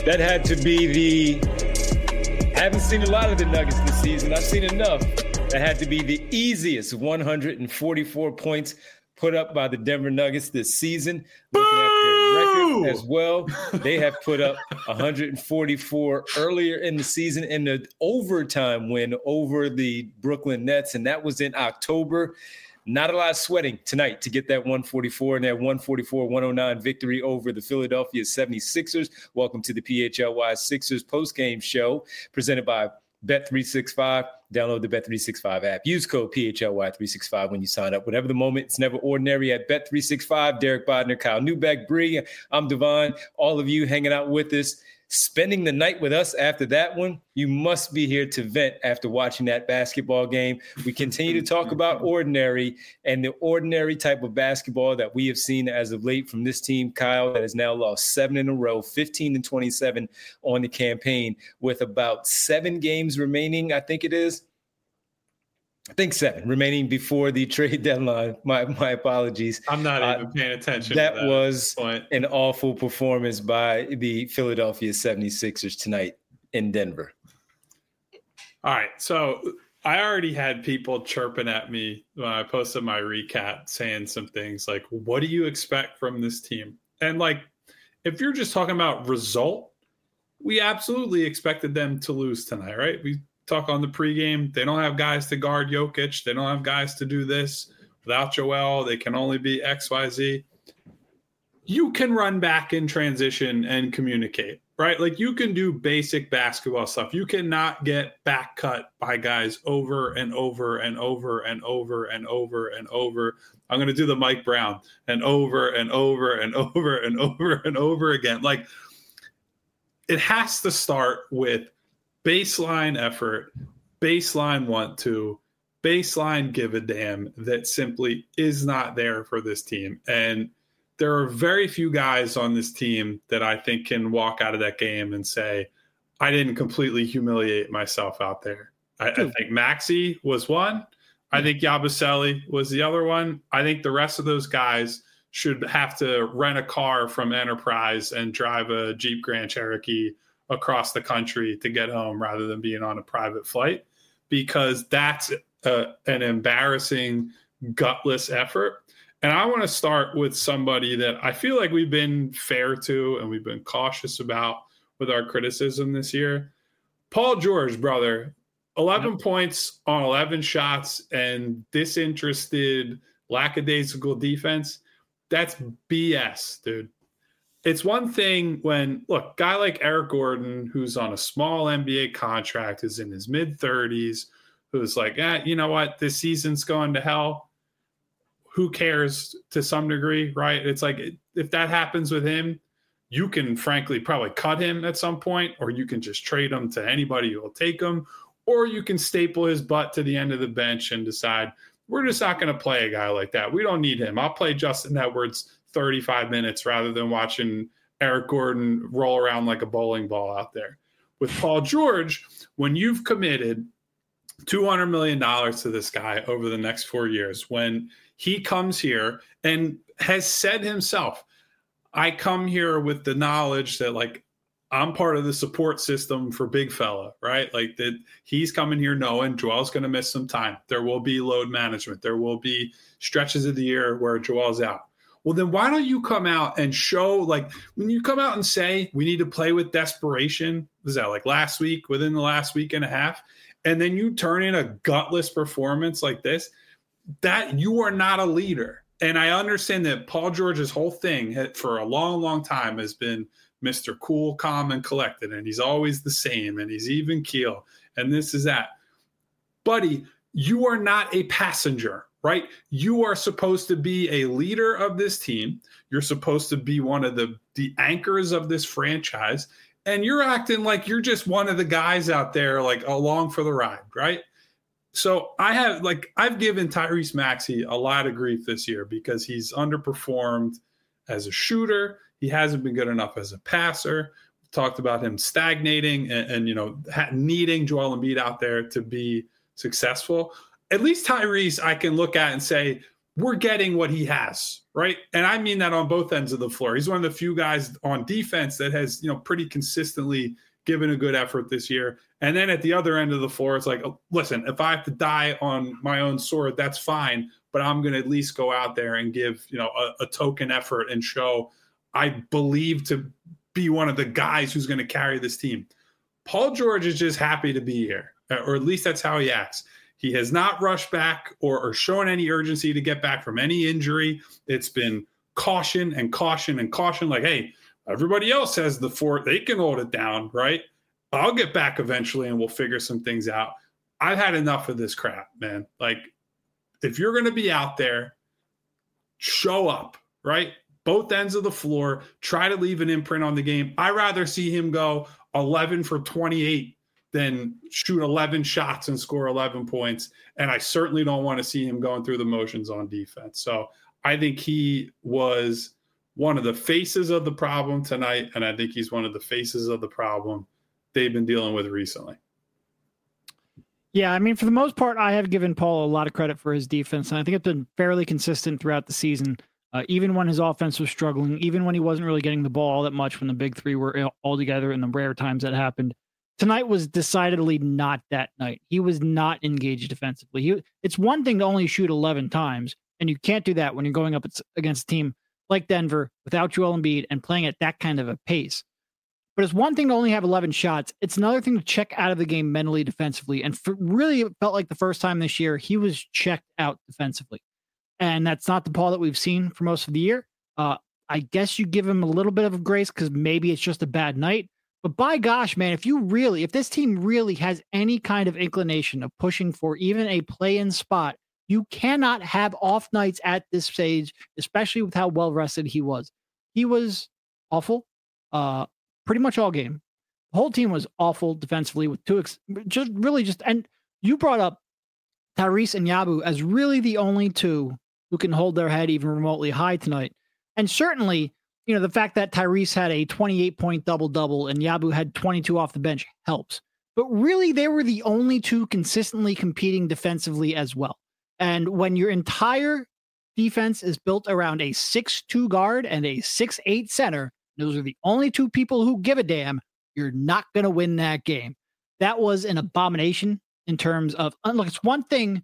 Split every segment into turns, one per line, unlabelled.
That had to be haven't seen a lot of the Nuggets this season. I've seen enough. That had to be the easiest 144 points put up by the Denver Nuggets this season. Looking at their record as well, they have put up 144 earlier in the season in the overtime win over the Brooklyn Nets, and that was in October. Not a lot of sweating tonight to get that 144 and that 144-109 victory over the Philadelphia 76ers. Welcome to the PHLY Sixers postgame show presented by Bet365. Download the Bet365 app. Use code PHLY365 when you sign up. Whatever the moment, it's never ordinary at Bet365. Derek Bodner, Kyle Newbeck, Bree. I'm Devon. All of you hanging out with us, spending the night with us after that one. You must be here to vent after watching that basketball game. We continue to talk about ordinary and the ordinary type of basketball that we have seen as of late from this team, Kyle, that has now lost 7 in a row, 15-27 on the campaign with about 7 games remaining, I think it is. I think 7 remaining before the trade deadline. My apologies.
I'm not even paying attention.
That was an awful performance by the Philadelphia 76ers tonight in Denver.
All right. So I already had people chirping at me when I posted my recap saying some things like, what do you expect from this team? And like, if you're just talking about result, we absolutely expected them to lose tonight, right? We talk on the pregame. They don't have guys to guard Jokic. They don't have guys to do this. Without Joel, they can only be XYZ. You can run back in transition and communicate, right? Like you can do basic basketball stuff. You cannot get back cut by guys over and over and over and over and over and over. I'm going to do the Mike Brown and over and over and over and over and over again. Like it has to start with baseline effort, baseline want to, baseline give a damn that simply is not there for this team. And there are very few guys on this team that I think can walk out of that game and say, I didn't completely humiliate myself out there. I think Maxey was one. I think Yabusele was the other one. I think the rest of those guys should have to rent a car from Enterprise and drive a Jeep Grand Cherokee across the country to get home rather than being on a private flight, because that's an embarrassing, gutless effort. And I want to start with somebody that I feel like we've been fair to and we've been cautious about with our criticism this year. Paul George, brother, 11 points on 11 shots and disinterested, lackadaisical defense. That's BS, dude. It's one thing when, look, guy like Eric Gordon, who's on a small NBA contract, is in his mid-30s, who's like, you know what, this season's going to hell. Who cares to some degree, right? It's like if that happens with him, you can frankly probably cut him at some point, or you can just trade him to anybody who will take him, or you can staple his butt to the end of the bench and decide, we're just not going to play a guy like that. We don't need him. I'll play Justin Edwards 35 minutes rather than watching Eric Gordon roll around like a bowling ball out there. With Paul George, when you've committed $200 million to this guy over the next 4 years, when he comes here and has said himself, I come here with the knowledge that like I'm part of the support system for big fella, right? Like that he's coming here knowing Joel's going to miss some time. There will be load management. There will be stretches of the year where Joel's out. Well, then why don't you come out and show, like when you come out and say we need to play with desperation, was that like last week, within the last week and a half, and then you turn in a gutless performance like this, that you are not a leader. And I understand that Paul George's whole thing for a long, long time has been Mr. Cool, Calm, and Collected, and he's always the same, and he's even keel, and this is that. Buddy, you are not a passenger, right? You are supposed to be a leader of this team. You're supposed to be one of the anchors of this franchise, and you're acting like you're just one of the guys out there, like along for the ride, right? So I've given Tyrese Maxey a lot of grief this year because he's underperformed as a shooter. He hasn't been good enough as a passer. We talked about him stagnating and needing Joel Embiid out there to be successful. At least Tyrese, I can look at and say, we're getting what he has, right? And I mean that on both ends of the floor. He's one of the few guys on defense that has, pretty consistently given a good effort this year. And then at the other end of the floor, it's like, listen, if I have to die on my own sword, that's fine. But I'm going to at least go out there and give, a token effort and show I believe to be one of the guys who's going to carry this team. Paul George is just happy to be here, or at least that's how he acts. He has not rushed back or shown any urgency to get back from any injury. It's been caution and caution and caution. Like, hey, everybody else has the fort. They can hold it down, right? I'll get back eventually and we'll figure some things out. I've had enough of this crap, man. Like, if you're going to be out there, show up, right? Both ends of the floor. Try to leave an imprint on the game. I'd rather see him go 11 for 28 than shoot 11 shots and score 11 points. And I certainly don't want to see him going through the motions on defense. So I think he was one of the faces of the problem tonight, and I think he's one of the faces of the problem they've been dealing with recently.
Yeah, I mean, for the most part, I have given Paul a lot of credit for his defense, and I think it's been fairly consistent throughout the season, even when his offense was struggling, even when he wasn't really getting the ball all that much when the big three were all together in the rare times that happened. Tonight was decidedly not that night. He was not engaged defensively. It's one thing to only shoot 11 times, and you can't do that when you're going up against a team like Denver without Joel Embiid and playing at that kind of a pace. But it's one thing to only have 11 shots. It's another thing to check out of the game mentally, defensively. And really, it felt like the first time this year, he was checked out defensively. And that's not the Paul that we've seen for most of the year. I guess you give him a little bit of grace because maybe it's just a bad night. But by gosh, man, if this team really has any kind of inclination of pushing for even a play-in spot, you cannot have off nights at this stage, especially with how well-rested he was. He was awful pretty much all game. The whole team was awful defensively with and you brought up Tyrese and Yabu as really the only two who can hold their head even remotely high tonight. And certainly, the fact that Tyrese had a 28-point double-double and Yabu had 22 off the bench helps. But really, they were the only two consistently competing defensively as well. And when your entire defense is built around a 6'2 guard and a 6'8 center, those are the only two people who give a damn, you're not going to win that game. That was an abomination in terms of, look, it's one thing.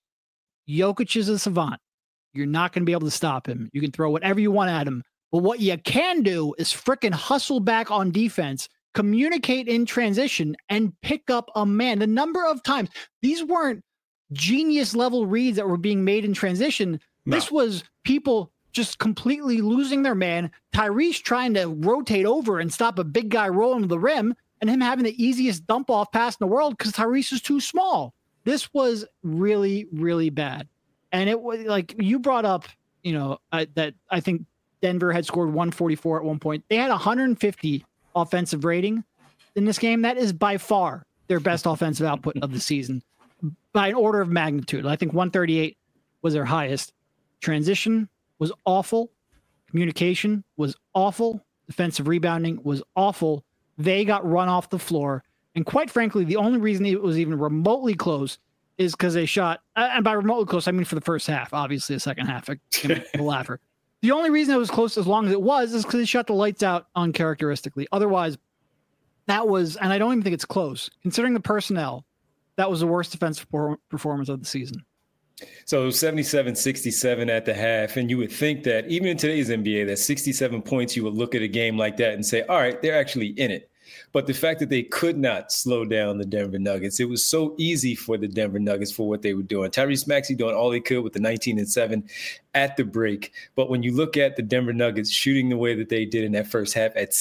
Jokic is a savant. You're not going to be able to stop him. You can throw whatever you want at him. But what you can do is frickin' hustle back on defense, communicate in transition, and pick up a man. The number of times, these weren't genius level reads that were being made in transition. No. This was people just completely losing their man. Tyrese trying to rotate over and stop a big guy rolling to the rim, and him having the easiest dump off pass in the world because Tyrese is too small. This was really, really bad. And it was like you brought up, that I think Denver had scored 144 at one point. They had 150 offensive rating in this game. That is by far their best offensive output of the season by an order of magnitude. I think 138 was their highest. Transition was awful. Communication was awful. Defensive rebounding was awful. They got run off the floor. And quite frankly, the only reason it was even remotely close is because they shot, and by remotely close, I mean for the first half. Obviously, the second half, a laugher. The only reason it was close as long as it was is because they shut the lights out uncharacteristically. Otherwise, that was, and I don't even think it's close. Considering the personnel, that was the worst defensive performance of the season.
So 77-67 at the half, and you would think that even in today's NBA, that 67 points, you would look at a game like that and say, all right, they're actually in it. But the fact that they could not slow down the Denver Nuggets, it was so easy for the Denver Nuggets for what they were doing. Tyrese Maxey doing all he could with the 19-7 at the break. But when you look at the Denver Nuggets shooting the way that they did in that first half at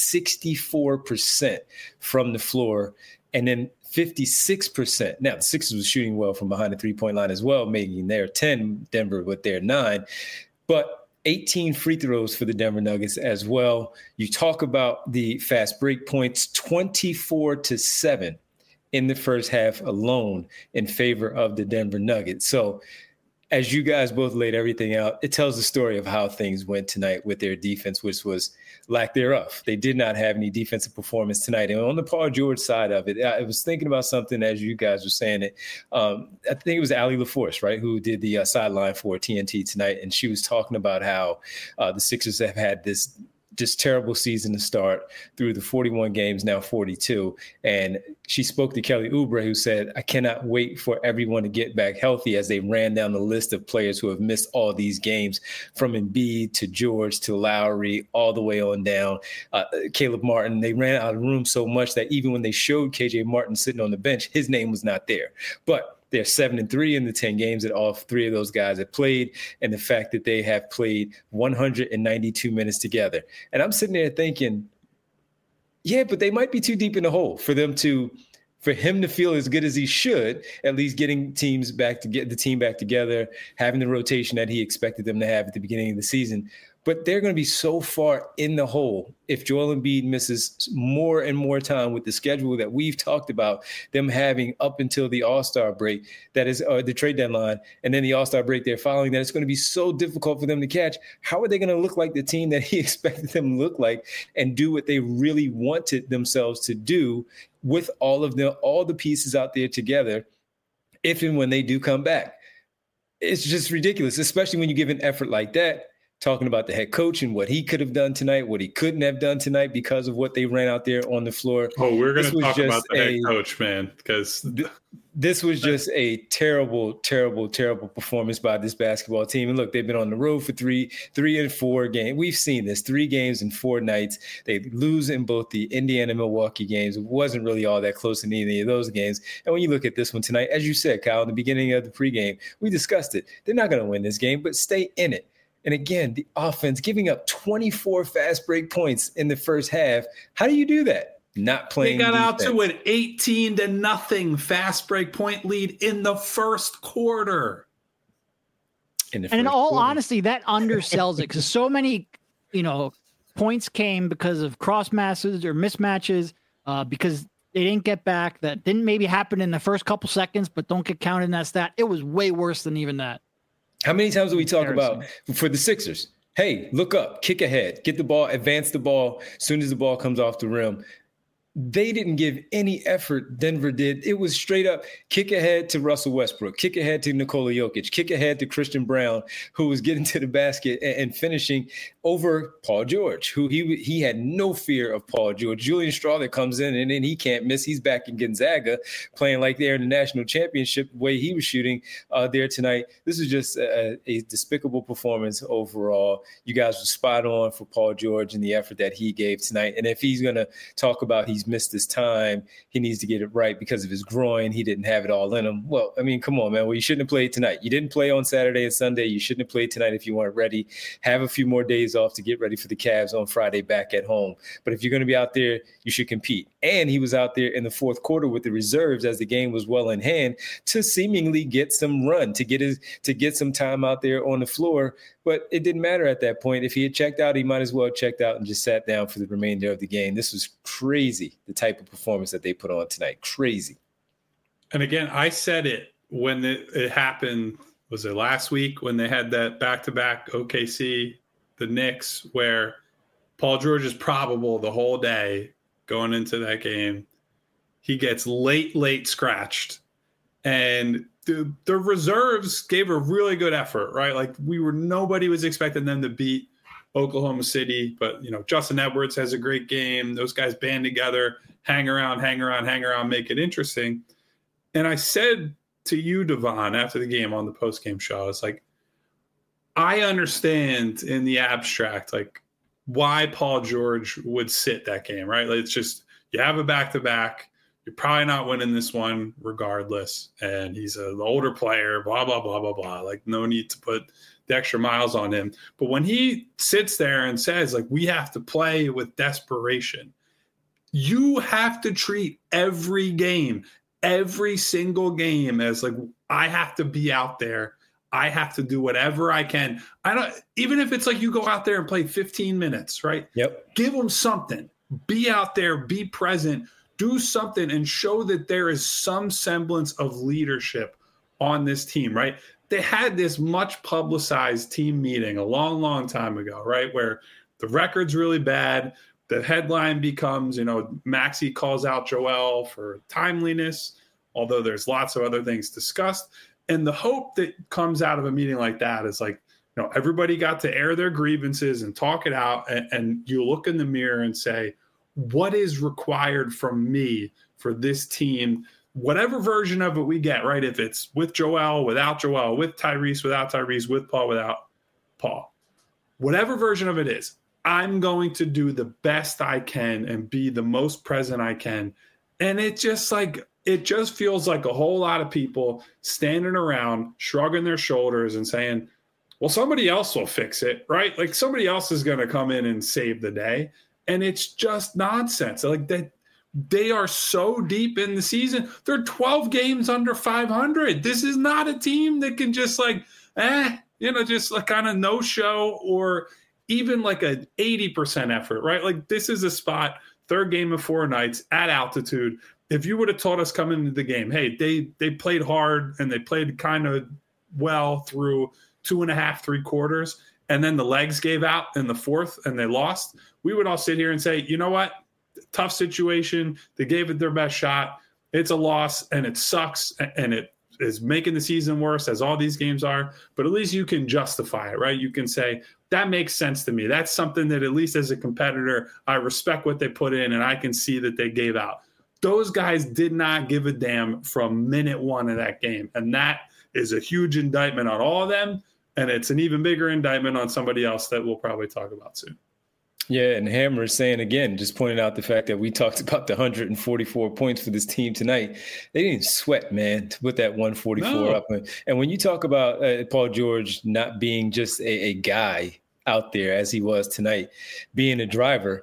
64% from the floor, and then 56%. Now, the Sixers was shooting well from behind the three-point line as well, making their 10, Denver with their 9. But 18 free throws for the Denver Nuggets as well. You talk about the fast break points, 24-7 in the first half alone in favor of the Denver Nuggets. So as you guys both laid everything out, it tells the story of how things went tonight with their defense, which was lack thereof. They did not have any defensive performance tonight. And on the Paul George side of it, I was thinking about something as you guys were saying it. I think it was Allie LaForce, right, who did the sideline for TNT tonight. And she was talking about how the Sixers have had this just terrible season to start through the 41 games, now 42. And she spoke to Kelly Oubre, who said, I cannot wait for everyone to get back healthy, as they ran down the list of players who have missed all these games, from Embiid to George to Lowry, all the way on down. Caleb Martin, they ran out of room so much that even when they showed KJ Martin sitting on the bench, his name was not there. But they're 7-3 in the 10 games that all three of those guys have played, and the fact that they have played 192 minutes together. And I'm sitting there thinking, yeah, but they might be too deep in the hole for him to feel as good as he should, at least getting teams back to get the team back together, having the rotation that he expected them to have at the beginning of the season. But they're going to be so far in the hole if Joel Embiid misses more and more time with the schedule that we've talked about them having up until the All-Star break, that is the trade deadline, and then the All-Star break they're following, that it's going to be so difficult for them to catch. How are they going to look like the team that he expected them to look like and do what they really wanted themselves to do with all the pieces out there together, if and when they do come back? It's just ridiculous, especially when you give an effort like that. Talking about the head coach and what he could have done tonight, what he couldn't have done tonight because of what they ran out there on the floor.
Oh, we're going to talk about the head coach, man, because
this was just a terrible, terrible, terrible performance by this basketball team. And look, they've been on the road for three and four games. We've seen this 3 games in 4 nights. They lose in both the Indiana and Milwaukee games. It wasn't really all that close in any of those games. And when you look at this one tonight, as you said, Kyle, in the beginning of the pregame, we discussed it. They're not going to win this game, but stay in it. And again, the offense giving up 24 fast break points in the first half. How do you do that? Not playing.
They got out to an 18-0 fast break point lead in the first quarter.
In all honesty, that undersells it, because so many, points came because of cross masses or mismatches, because they didn't get back. That didn't maybe happen in the first couple seconds, but don't get counted in that stat. It was way worse than even that.
How many times do we talk about for the Sixers? Hey, look up, kick ahead, get the ball, advance the ball as soon as the ball comes off the rim. They didn't give any effort. Denver did. It was straight up kick ahead to Russell Westbrook, kick ahead to Nikola Jokic, kick ahead to Christian Brown, who was getting to the basket and finishing over Paul George, who he had no fear of Paul George. Julian Strawther comes in and then he can't miss. He's back in Gonzaga playing like they're in the national championship, the way he was shooting there tonight. This is just a despicable performance overall. You guys were spot on for Paul George and the effort that he gave tonight. And if he's going to talk about he's missed his time, he needs to get it right because of his groin. He didn't have it all in him. Well, I mean, come on, man. Well, you shouldn't have played tonight. You didn't play on Saturday and Sunday. You shouldn't have played tonight if you weren't ready. Have a few more days off to get ready for the Cavs on Friday back at home. But if you're going to be out there, you should compete. And he was out there in the fourth quarter with the reserves as the game was well in hand to seemingly get some run, to get some time out there on the floor. But it didn't matter at that point. If he had checked out, he might as well have checked out and just sat down for the remainder of the game. This was crazy, the type of performance that they put on tonight. Crazy.
And again, I said it when it happened. Was it last week when they had that back-to-back OKC, the Knicks, where Paul George is probable the whole day going into that game. He gets late scratched. And the reserves gave a really good effort, right? Like nobody was expecting them to beat Oklahoma City, but Justin Edwards has a great game. Those guys band together, hang around, make it interesting. And I said to you, Devon, after the game on the post-game show, it's like, I understand in the abstract, like why Paul George would sit that game, right? Like, it's just, you have a back-to-back. You're probably not winning this one regardless. And he's an older player, blah, blah, blah, blah, blah. Like, no need to put the extra miles on him. But when he sits there and says, like, we have to play with desperation, you have to treat every game, every single game as like, I have to be out there. I have to do whatever I can. Even if it's like you go out there and play 15 minutes, right?
Yep.
Give them something. Be out there, be present, do something and show that there is some semblance of leadership on this team, right? they had this much publicized team meeting a long, long time ago, right? Where the record's really bad. The headline becomes, Maxey calls out Joel for timeliness, although there's lots of other things discussed. And the hope that comes out of a meeting like that is like, everybody got to air their grievances and talk it out. And you look in the mirror and say, what is required from me for this team? Whatever version of it we get, right? If it's with Joel, without Joel, with Tyrese, without Tyrese, with Paul, without Paul, whatever version of it is, I'm going to do the best I can and be the most present I can. And it just feels like a whole lot of people standing around, shrugging their shoulders and saying, well, somebody else will fix it, right? Like somebody else is going to come in and save the day. And it's just nonsense. Like they are so deep in the season. They're 12 games under 500. This is not a team that can just just like kind of no show or even like an 80% effort, right? Like this is a spot, third game of 4 nights at altitude. If you would have told us coming into the game, hey, they played hard and they played kind of well through 2.5, 3 quarters, and then the legs gave out in the fourth and they lost, we would all sit here and say, you know what? Tough situation. They gave it their best shot. It's a loss and it sucks and it is making the season worse as all these games are, but at least you can justify it, right? You can say, that makes sense to me. That's something that at least as a competitor, I respect what they put in and I can see that they gave out. Those guys did not give a damn from minute 1 of that game. And that is a huge indictment on all of them. And it's an even bigger indictment on somebody else that we'll probably talk about soon.
Yeah, and Hammer is saying again, just pointing out the fact that we talked about the 144 points for this team tonight. They didn't sweat, man, to put that 144 up. And when you talk about Paul George not being just a guy out there as he was tonight, being a driver,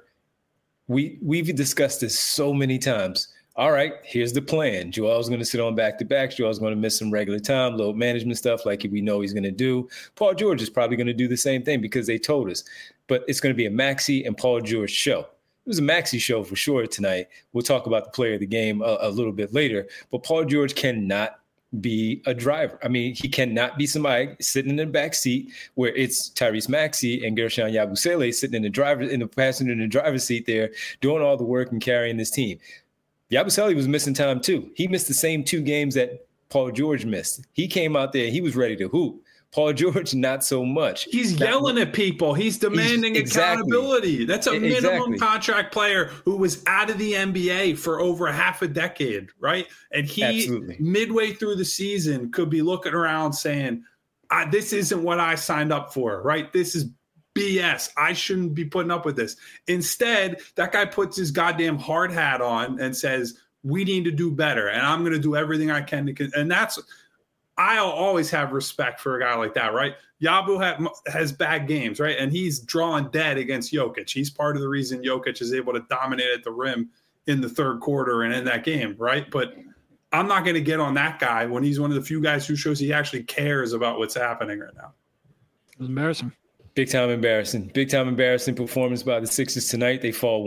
we've discussed this so many times. All right, here's the plan. Joel's going to sit on back-to-backs. Joel's going to miss some regular time, load management stuff like we know he's going to do. Paul George is probably going to do the same thing because they told us. But it's going to be a Maxey and Paul George show. It was a Maxey show for sure tonight. We'll talk about the player of the game a little bit later. But Paul George cannot be a driver. I mean, he cannot be somebody sitting in the back seat where it's Tyrese Maxey and Guerschon Yabusele sitting in the passenger in the driver's seat there doing all the work and carrying this team. Yabusele was missing time too. He missed the same 2 games that Paul George missed. He came out there, he was ready to hoop. Paul George, not so much.
He's yelling at people. He's demanding accountability. That's a minimum contract player who was out of the NBA for over half a decade, right? And he, midway through the season, could be looking around saying, this isn't what I signed up for, right? This is BS. I shouldn't be putting up with this. Instead, that guy puts his goddamn hard hat on and says, we need to do better. And I'm going to do everything I can to, and that's, I'll always have respect for a guy like that, right? Yabu has bad games, right? And he's drawing dead against Jokic. He's part of the reason Jokic is able to dominate at the rim in the third quarter and in that game, right? But I'm not going to get on that guy when he's one of the few guys who shows he actually cares about what's happening right now.
It was embarrassing.
Big time embarrassing performance by the Sixers tonight. They fall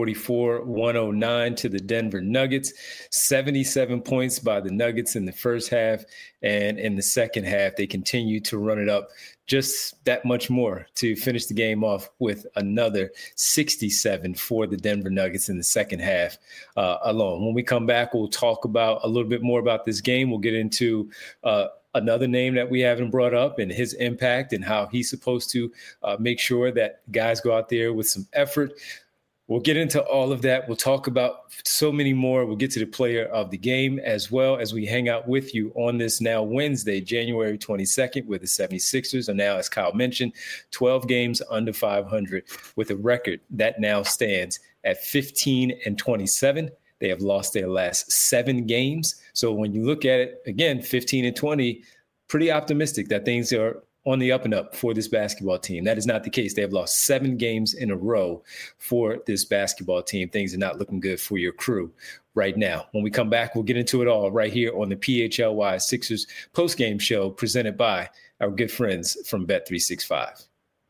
144-109 to the Denver Nuggets. 77 points by the Nuggets in the first half. And in the second half, they continue to run it up just that much more to finish the game off with another 67 for the Denver Nuggets in the second half alone. When we come back, we'll talk about a little bit more about this game. We'll get into another name that we haven't brought up and his impact and how he's supposed to make sure that guys go out there with some effort. We'll get into all of that. We'll talk about so many more. We'll get to the player of the game as well as we hang out with you on this now Wednesday, January 22nd, where the 76ers are now, as Kyle mentioned, 12 games under 500 with a record that now stands at 15-27. They have lost their last 7 games. So when you look at it, again, 15-20, pretty optimistic that things are on the up and up for this basketball team. That is not the case. They have lost 7 games in a row for this basketball team. Things are not looking good for your crew right now. When we come back, we'll get into it all right here on the PHLY Sixers postgame show presented by our good friends from Bet365.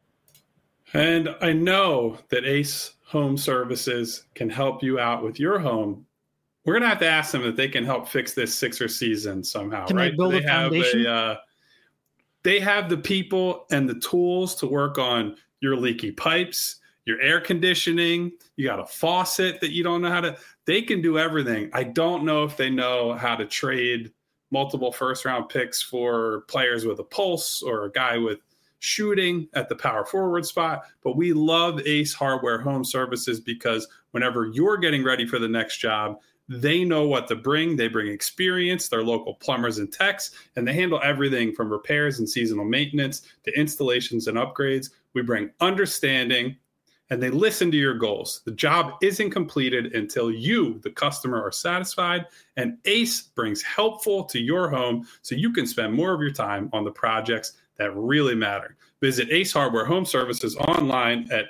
And I know that Ace Home Services can help you out with your home. We're going to have to ask them if they can help fix this Sixers season somehow,
can
right?
They build a foundation?
They have the people and the tools to work on your leaky pipes, your air conditioning. You got a faucet that you don't know how to. They can do everything. I don't know if they know how to trade multiple first-round picks for players with a pulse or a guy with shooting at the power forward spot. But we love Ace Hardware Home Services because whenever you're getting ready for the next job, they know what to bring. They bring experience. They're local plumbers and techs, and they handle everything from repairs and seasonal maintenance to installations and upgrades. We bring understanding, and they listen to your goals. The job isn't completed until you, the customer, are satisfied, and Ace brings helpful to your home so you can spend more of your time on the projects that really matter. Visit Ace Hardware Home Services online at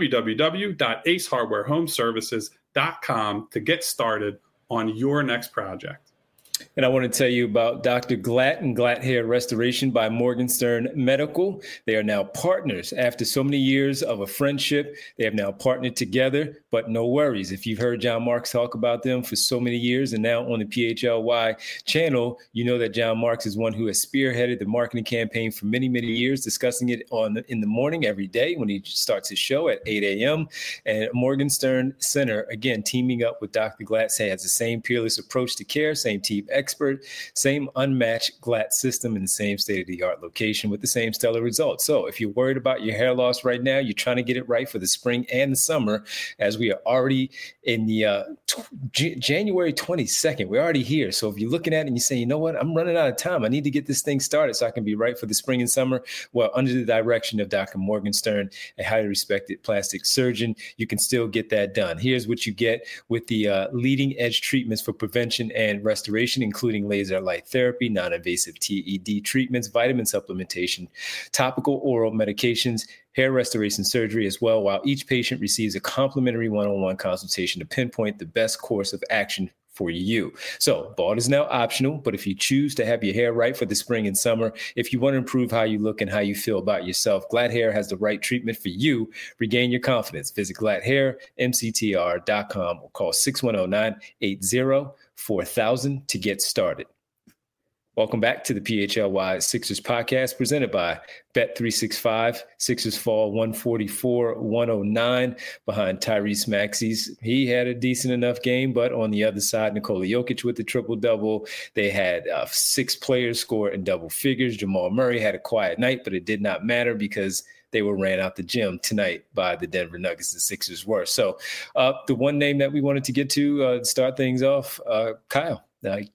www.acehardwarehomeservices.com to get started on your next project.
And I want to tell you about Dr. Glatt and Glatt Hair Restoration by Morgenstern Medical. They are now partners. After so many years of a friendship, they have now partnered together, but no worries. If you've heard John Marks talk about them for so many years and now on the PHLY channel, you know that John Marks is one who has spearheaded the marketing campaign for many, many years, discussing it in the morning every day when he starts his show at 8 a.m. And Morgenstern Center, again, teaming up with Dr. Glatt, has the same peerless approach to care, same team expert, same unmatched Glatt system in the same state-of-the-art location with the same stellar results. So if you're worried about your hair loss right now, you're trying to get it right for the spring and the summer, as we are already in the January 22nd. We're already here. So if you're looking at it and you say, you know what, I'm running out of time. I need to get this thing started so I can be right for the spring and summer. Well, under the direction of Dr. Morgenstern, a highly respected plastic surgeon, you can still get that done. Here's what you get with the leading edge treatments for prevention and restoration, including laser light therapy, non-invasive TED treatments, vitamin supplementation, topical oral medications, hair restoration surgery as well, while each patient receives a complimentary one-on-one consultation to pinpoint the best course of action for you. So bald is now optional, but if you choose to have your hair right for the spring and summer, if you want to improve how you look and how you feel about yourself, Glatt Hair has the right treatment for you. Regain your confidence. Visit GlattHairMCTR.com or call 610-980-4000 to get started. Welcome back to the PHLY Sixers podcast presented by Bet365. Sixers fall 144-109 behind Tyrese Maxey's. He had a decent enough game, but on the other side, Nikola Jokic with the triple-double. They had 6 players score in double figures. Jamal Murray had a quiet night, but it did not matter because they were ran out the gym tonight by the Denver Nuggets. The Sixers were. So the one name that we wanted to get to start things off, Kyle.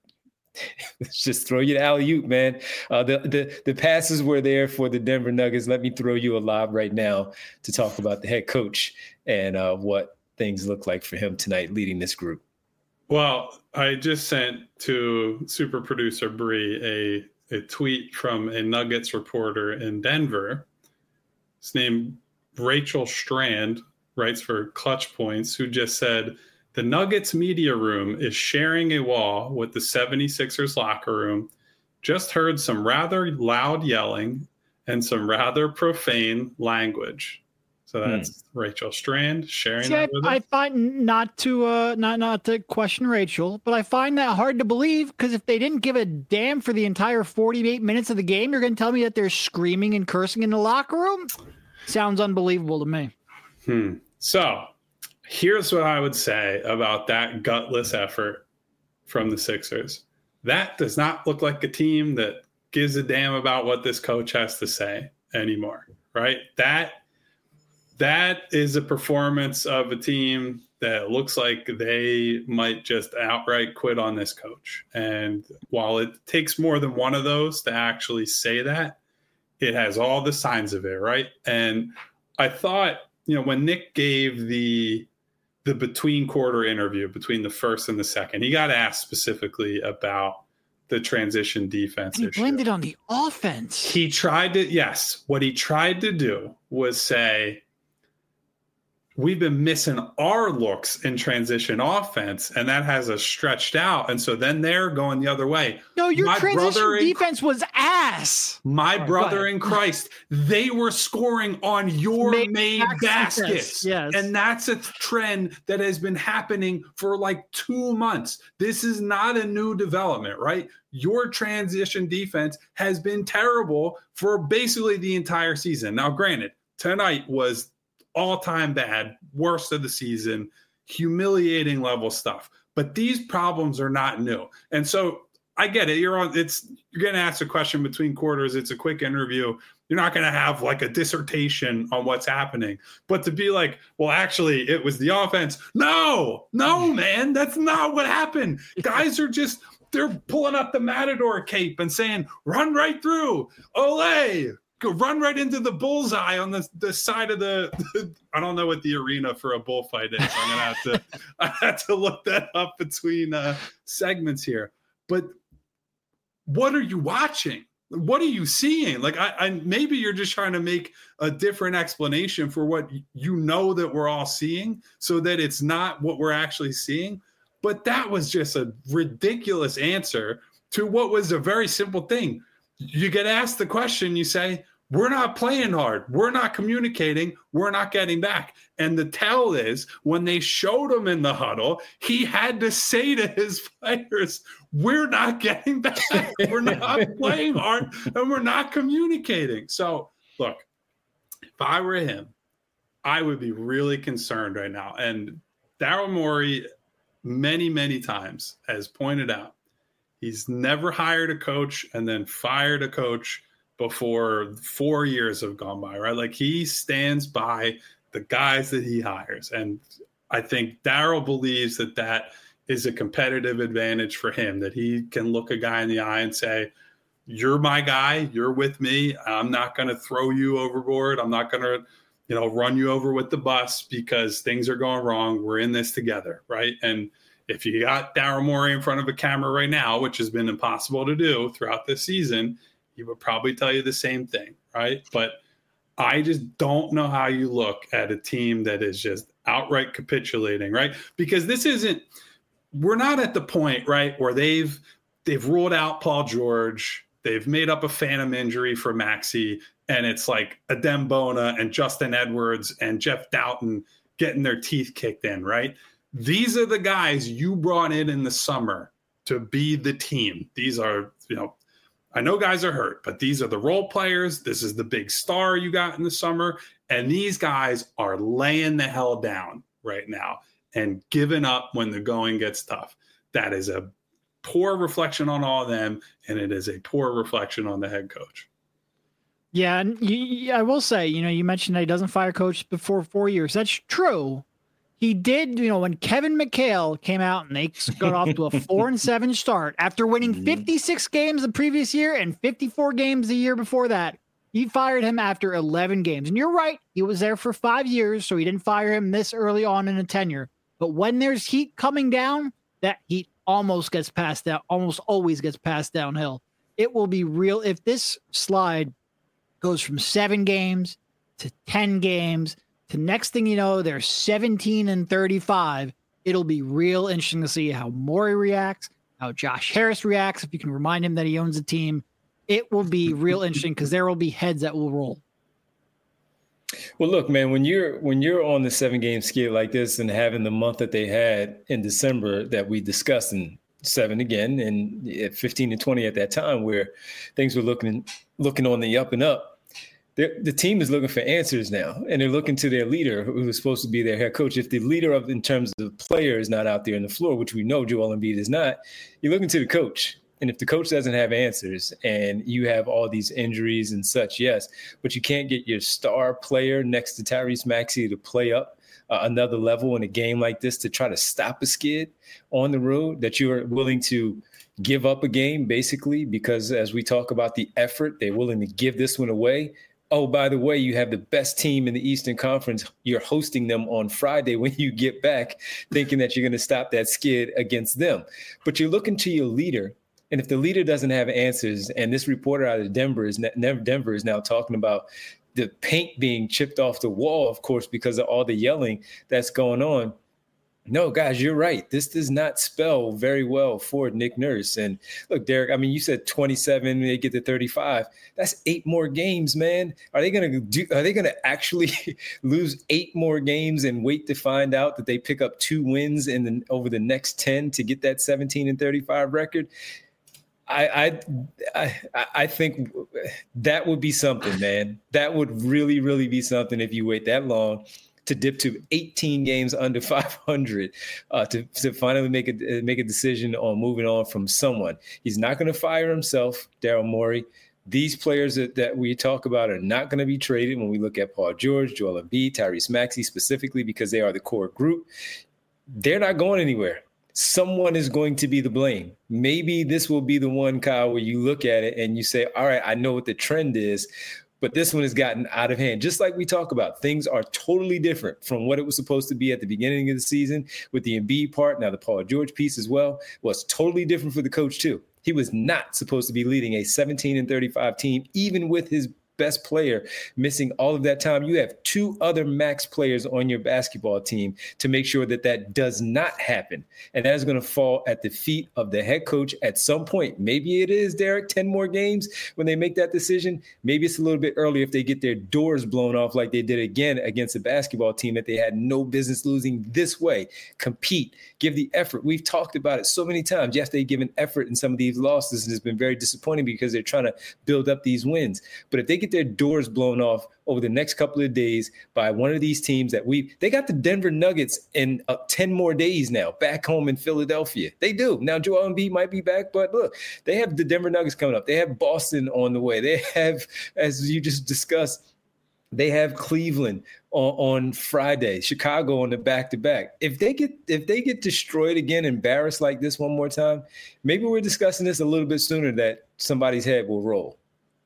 Let's just throw you the alley-oop, man. The passes were there for the Denver Nuggets. Let me throw you a lob right now to talk about the head coach and what things look like for him tonight leading this group.
Well, I just sent to super producer Bree a tweet from a Nuggets reporter in Denver. His name Rachel Strand, writes for Clutch Points, who just said, the Nuggets media room is sharing a wall with the 76ers locker room. Just heard some rather loud yelling and some rather profane language. So that's Rachel Strand sharing that with us.
I find not to question Rachel, but I find that hard to believe because if they didn't give a damn for the entire 48 minutes of the game, you're going to tell me that they're screaming and cursing in the locker room? Sounds unbelievable to me.
So here's what I would say about that gutless effort from the Sixers. That does not look like a team that gives a damn about what this coach has to say anymore, right? That is a performance of a team that looks like they might just outright quit on this coach. And while it takes more than one of those to actually say that, it has all the signs of it, right? And I thought, when Nick gave the between quarter interview between the first and the second, he got asked specifically about the transition defense issue.
He blamed it on the offense.
What he tried to do was say, we've been missing our looks in transition offense, and that has us stretched out. And so then they're going the other way.
No, your transition defense was ass.
My brother in Christ, they were scoring on your made baskets.
Yes.
And that's a trend that has been happening for like 2 months. This is not a new development, right? Your transition defense has been terrible for basically the entire season. Now, granted, tonight was all-time bad, worst of the season, humiliating level stuff. But these problems are not new. And so I get it. You're going to ask a question between quarters. It's a quick interview. You're not going to have like a dissertation on what's happening. But to be like, well, actually, it was the offense. No, man, that's not what happened. Guys are just, they're pulling up the Matador cape and saying, run right through. Olay. Go run right into the bullseye on the side of the I don't know what the arena for a bullfight is. I'm gonna have to look that up between segments here. But what are you watching? What are you seeing? Like I maybe you're just trying to make a different explanation for what you know that we're all seeing, so that it's not what we're actually seeing. But that was just a ridiculous answer to what was a very simple thing. You get asked the question, you say, we're not playing hard. We're not communicating. We're not getting back. And the tell is when they showed him in the huddle, he had to say to his players, we're not getting back. We're not playing hard and we're not communicating. So look, if I were him, I would be really concerned right now. And Daryl Morey many, many times has pointed out, he's never hired a coach and then fired a coach before 4 years have gone by, right? Like he stands by the guys that he hires. And I think Daryl believes that that is a competitive advantage for him, that he can look a guy in the eye and say, you're my guy, you're with me. I'm not going to throw you overboard. I'm not going to, run you over with the bus because things are going wrong. We're in this together, right? And if you got Daryl Morey in front of a camera right now, which has been impossible to do throughout this season, he would probably tell you the same thing, right? But I just don't know how you look at a team that is just outright capitulating, right? Because we're not at the point, right, where they've ruled out Paul George, they've made up a phantom injury for Maxey, and it's like Adem Bona and Justin Edwards and Jeff Doughton getting their teeth kicked in, right? These are the guys you brought in the summer to be the team. These are, I know guys are hurt, but these are the role players. This is the big star you got in the summer. And these guys are laying the hell down right now and giving up when the going gets tough. That is a poor reflection on all of them, and it is a poor reflection on the head coach.
Yeah, and I will say, you mentioned that he doesn't fire coach before 4 years. That's true. He did, when Kevin McHale came out and they got off to a 4-7 start after winning 56 games the previous year and 54 games the year before that. He fired him after 11 games. And you're right, he was there for 5 years, so he didn't fire him this early on in a tenure. But when there's heat coming down, that heat almost always gets passed downhill. It will be real if this slide goes from 7 games to 10 games. To next thing you know, they're 17-35. It'll be real interesting to see how Morey reacts, how Josh Harris reacts. If you can remind him that he owns the team, it will be real interesting because there will be heads that will roll.
Well, look, man, when you're on the 7-game skid like this and having the month that they had in December that we discussed, in 7 again and 15-20 at that time, where things were looking on the up and up. The team is looking for answers now, and they're looking to their leader, who is supposed to be their head coach. If the leader in terms of the player is not out there on the floor, which we know Joel Embiid is not, you're looking to the coach. And if the coach doesn't have answers and you have all these injuries and such, yes, but you can't get your star player next to Tyrese Maxey to play up another level in a game like this to try to stop a skid on the road, that you are willing to give up a game basically because, as we talk about the effort, they're willing to give this one away. Oh, by the way, you have the best team in the Eastern Conference. You're hosting them on Friday when you get back, thinking that you're going to stop that skid against them. But you're looking to your leader. And if the leader doesn't have answers, and this reporter out of Denver is now talking about the paint being chipped off the wall, of course, because of all the yelling that's going on. No, guys, you're right. This does not spell very well for Nick Nurse. And look, Derek, I mean, you said 27, they get to 35. That's 8 more games, man. Are they going to actually lose 8 more games and wait to find out that they pick up 2 wins over the next 10 to get that 17-35 record? I think that would be something, man. That would really, really be something if you wait that long to dip to 18 games under 500 to finally make a decision on moving on from someone. He's not going to fire himself, Daryl Morey. These players that we talk about are not going to be traded when we look at Paul George, Joel Embiid, Tyrese Maxey specifically because they are the core group. They're not going anywhere. Someone is going to be the blame. Maybe this will be the one, Kyle, where you look at it and you say, all right, I know what the trend is, but this one has gotten out of hand. Just like we talk about, things are totally different from what it was supposed to be at the beginning of the season with the Embiid part. Now the Paul George piece as well was totally different for the coach too. He was not supposed to be leading a 17-35 team, even with his best player missing all of that time. You have 2 other max players on your basketball team to make sure that does not happen. And that is going to fall at the feet of the head coach at some point. Maybe it is, Derek, 10 more games when they make that decision. Maybe it's a little bit early if they get their doors blown off like they did again against a basketball team that they had no business losing this way. Compete, give the effort. We've talked about it so many times. Yes, they give an effort in some of these losses, and it's been very disappointing because they're trying to build up these wins. But if they get their doors blown off over the next couple of days by one of these teams they got the Denver Nuggets in 10 more days now back home in Philadelphia. They do. Now Joel Embiid might be back, but look, they have the Denver Nuggets coming up. They have Boston on the way. They have, as you just discussed, they have Cleveland on Friday, Chicago on the back-to-back. If they get destroyed again, embarrassed like this one more time, maybe we're discussing this a little bit sooner that somebody's head will roll.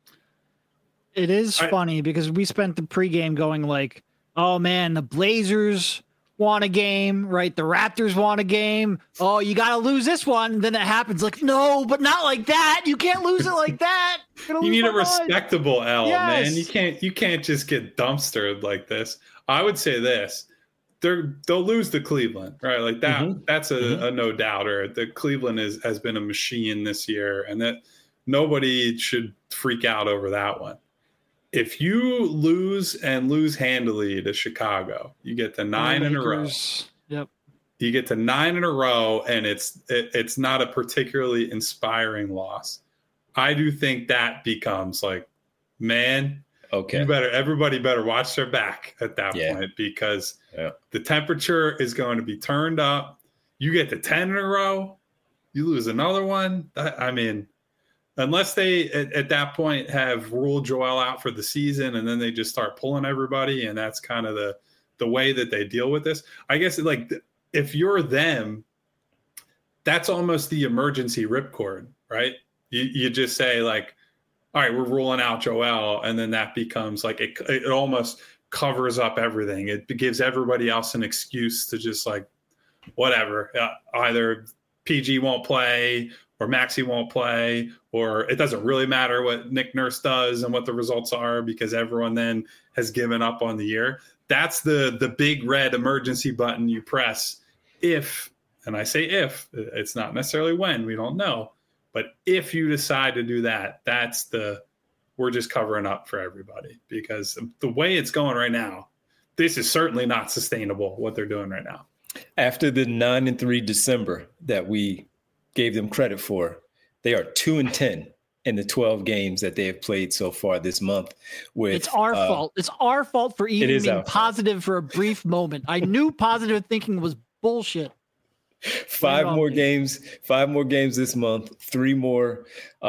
It is funny because we spent the pregame going like, oh, man, the Blazers want a game, right? The Raptors want a game. Oh, you got to lose this one. Then it happens like, no, but not like that. You can't lose it like that.
You need a respectable L, man. You can't just get dumpstered like this. I would say this. They'll lose to Cleveland, right? Like that. Mm-hmm. That's a no doubter. The Cleveland has been a machine this year, and that nobody should freak out over that one. If you lose handily to Chicago, you get to 9 in a row.
Yep.
You get to 9 in a row, and it's not a particularly inspiring loss. I do think that becomes like, man, okay, everybody better watch their back at that point because the temperature is going to be turned up. You get to 10 in a row, you lose another one. I mean, unless they at that point have ruled Joel out for the season and then they just start pulling everybody, and that's kind of the way that they deal with this. I guess like if you're them, that's almost the emergency ripcord, right? You just say like, all right, we're ruling out Joel, and then that becomes like it almost covers up everything. It gives everybody else an excuse to just like whatever. Either PG won't play or Maxey won't play, or it doesn't really matter what Nick Nurse does and what the results are because everyone then has given up on the year. That's the big red emergency button you press if, and I say if, it's not necessarily when, we don't know. But if you decide to do that, we're just covering up for everybody because the way it's going right now, this is certainly not sustainable what they're doing right now.
After the 9-3 December that we gave them credit for, they are 2-10 in the 12 games that they have played so far this month.
It's our fault. It's our fault for even being positive for a brief moment. I knew positive thinking was bullshit.
5 more games this month, 3 more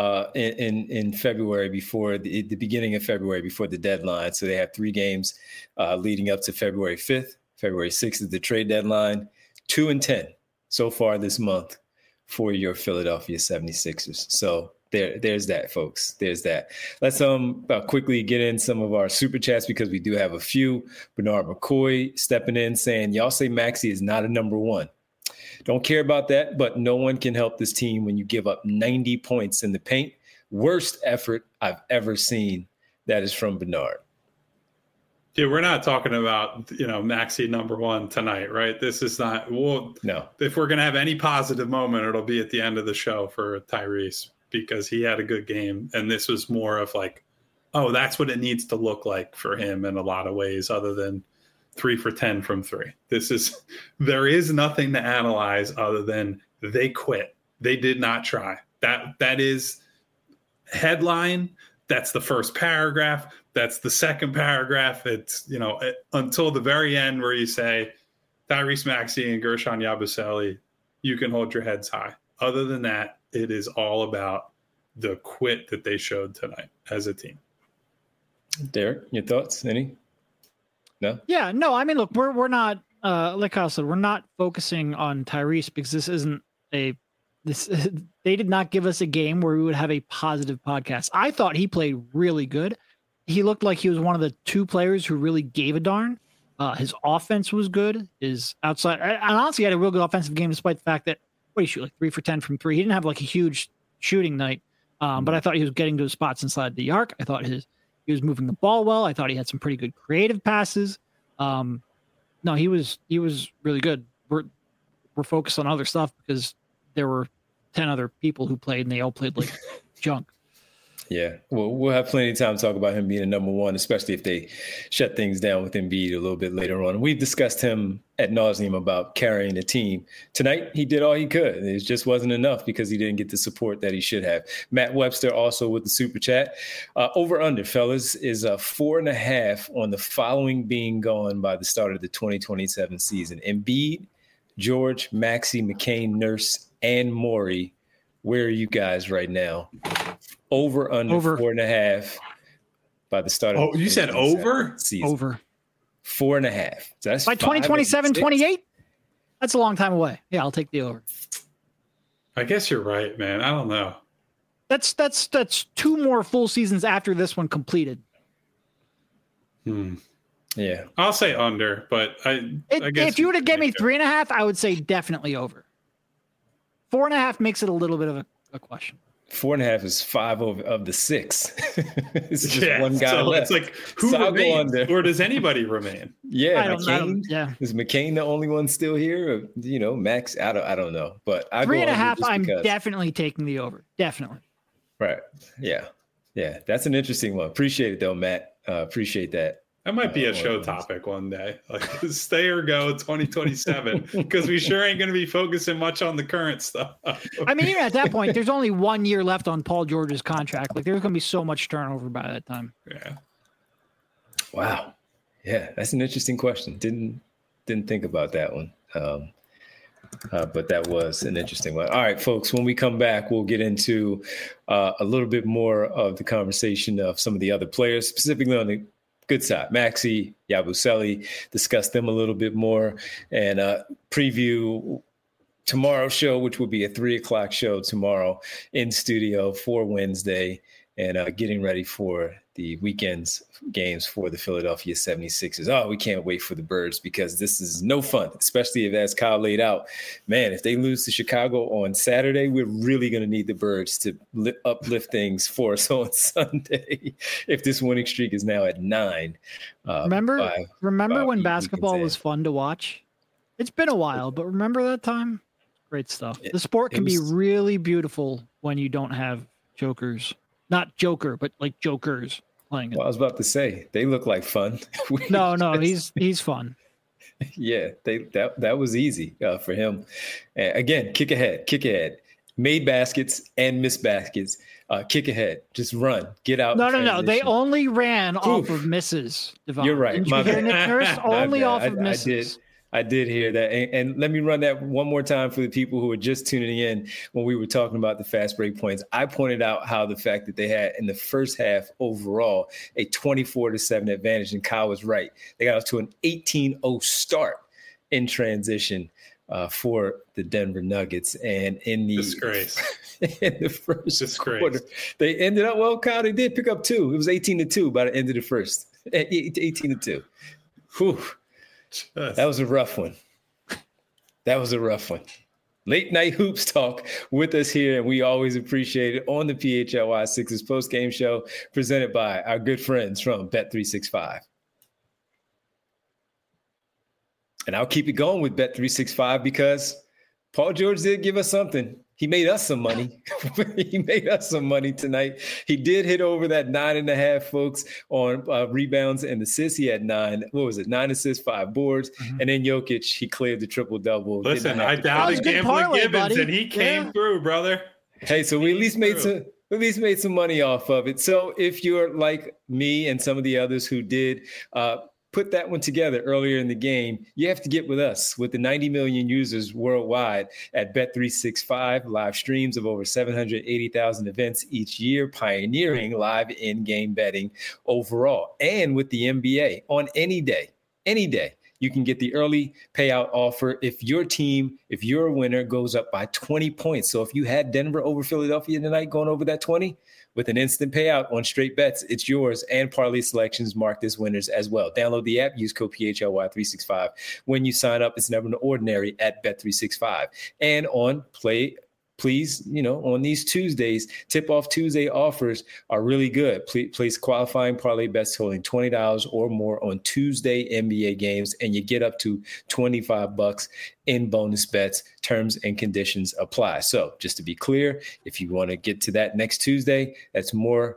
in February before the beginning of February before the deadline. So they have 3 games leading up to February 5th. February 6th is the trade deadline. 2-10 so far this month for your Philadelphia 76ers. So there's that, folks. There's that. Let's quickly get in some of our super chats because we do have a few. Bernard McCoy stepping in saying, y'all say Maxey is not a number 1. Don't care about that, but no one can help this team when you give up 90 points in the paint. Worst effort I've ever seen. That is from Bernard.
Yeah, we're not talking about, Maxey number one tonight, right? This is not,
no.
If we're going to have any positive moment, it'll be at the end of the show for Tyrese because he had a good game. And this was more of like, oh, that's what it needs to look like for him in a lot of ways other than 3 for 10 from 3. There is nothing to analyze other than they quit. They did not try. That is headline. That's the first paragraph. That's the second paragraph. It's, until the very end where you say Tyrese Maxey and Guerschon Yabusele, you can hold your heads high. Other than that, it is all about the quit that they showed tonight as a team.
Derek,
your thoughts? Any? No?
Yeah, no. I mean, look, we're not like Kyle said, we're not focusing on Tyrese because this isn't they did not give us a game where we would have a positive podcast. I thought he played really good. He looked like he was one of the 2 players who really gave a darn. His offense was good. His outside, and honestly, he had a real good offensive game despite the fact that he shoot like 3 for 10 from 3. He didn't have like a huge shooting night, but I thought he was getting to his spots inside the arc. I thought he was moving the ball well. I thought he had some pretty good creative passes. No, he was really good. We're focused on other stuff because there were 10 other people who played and they all played like junk.
Yeah, well, we'll have plenty of time to talk about him being a number one, especially if they shut things down with Embiid a little bit later on. We've discussed him ad nauseum about carrying the team. Tonight, he did all he could. It just wasn't enough because he didn't get the support that he should have. Matt Webster also with the super chat. Over under, fellas, is 4.5 on the following being gone by the start of the 2027 season. Embiid, George, Maxey, McCain, Nurse, and Morey. Where are you guys right now? Over 4.5 by the start of
you said over?
Season.
Over.
4.5. So that's
by 2027, 28? That's a long time away. Yeah, I'll take the over.
I guess you're right, man. I don't know.
That's 2 more full seasons after this one completed.
Yeah.
I'll say under, but I guess
if you would have given me 3.5, I would say definitely over. 4.5 makes it a little bit of a question.
4.5 is 5 of the 6. It's just one guy left.
It's like, who remains? Or does anybody remain?
Yeah, McCain. Is McCain the only one still here? Or, Max? I don't know. But I
3.5, I'm definitely taking the over. Definitely.
Right. Yeah. Yeah. That's an interesting one. Appreciate it, though, Matt. Appreciate that.
That might be a show topic one day. Like, stay or go 2027, because we sure ain't going to be focusing much on the current stuff.
I mean, even at that point, there's only 1 year left on Paul George's contract. Like, there's going to be so much turnover by that time.
Yeah.
Wow. Yeah, that's an interesting question. Didn't think about that one. But that was an interesting one. All right, folks, when we come back, we'll get into a little bit more of the conversation of some of the other players, specifically on the good side. Maxey, Yabusele, discuss them a little bit more and preview tomorrow's show, which will be a 3:00 show tomorrow in studio for Wednesday, and getting ready for the weekend's games for the Philadelphia 76ers. Oh, we can't wait for the Birds because this is no fun, especially if, as Kyle laid out, man, if they lose to Chicago on Saturday, we're really going to need the Birds to uplift things for us on Sunday if this winning streak is now at 9.
Remember when basketball was fun to watch? It's been a while, but remember that time? Great stuff. The sport can be really beautiful when you don't have jokers. Not Joker, but like jokers playing it.
Well, I was about to say they look like fun.
No, he's fun.
Yeah, that was easy for him. Again, kick ahead, made baskets and missed baskets. Kick ahead, just run, get out.
No. They only ran off of misses. Devon.
You're right.
Didn't you hear Nick Nurse? Only off of misses.
I did hear that. And let me run that one more time for the people who are just tuning in when we were talking about the fast break points. I pointed out how the fact that they had in the first half overall a 24-7 advantage, and Kyle was right. They got off to an 18-0 start in transition for the Denver Nuggets. And in the first quarter, they ended up, well, Kyle, they did pick up 2. It was 18-2 by the end of the first. 18-2. Whew. That was a rough one. Late night hoops talk with us here, and we always appreciate it on the PHLY Sixers post-game show presented by our good friends from Bet365. And I'll keep it going with Bet365 because Paul George did give us something. He made us some money. He made us some money tonight. He did hit over that 9.5, folks, on rebounds and assists. He had 9 assists, 5 boards. Mm-hmm. And then Jokic, he cleared the triple-double.
Listen, I doubted Gambling Gibbons, and he came through, brother.
Hey, so we at least made some money off of it. So if you're like me and some of the others who did put that one together earlier in the game, you have to get with us. With the 90 million users worldwide at Bet365, live streams of over 780,000 events each year, pioneering live in-game betting overall. And with the NBA, on any day, you can get the early payout offer if your winner goes up by 20 points. So if you had Denver over Philadelphia tonight going over that 20, with an instant payout on straight bets, it's yours, and parlay selections marked as winners as well. Download the app, use code PHLY365. When you sign up, it's never an ordinary at Bet365. And on please, on these Tuesdays, Tip-Off Tuesday offers are really good. Place qualifying parlay bets totaling $20 or more on Tuesday NBA games, and you get up to $25 in bonus bets. Terms and conditions apply. So just to be clear, if you want to get to that next Tuesday, that's more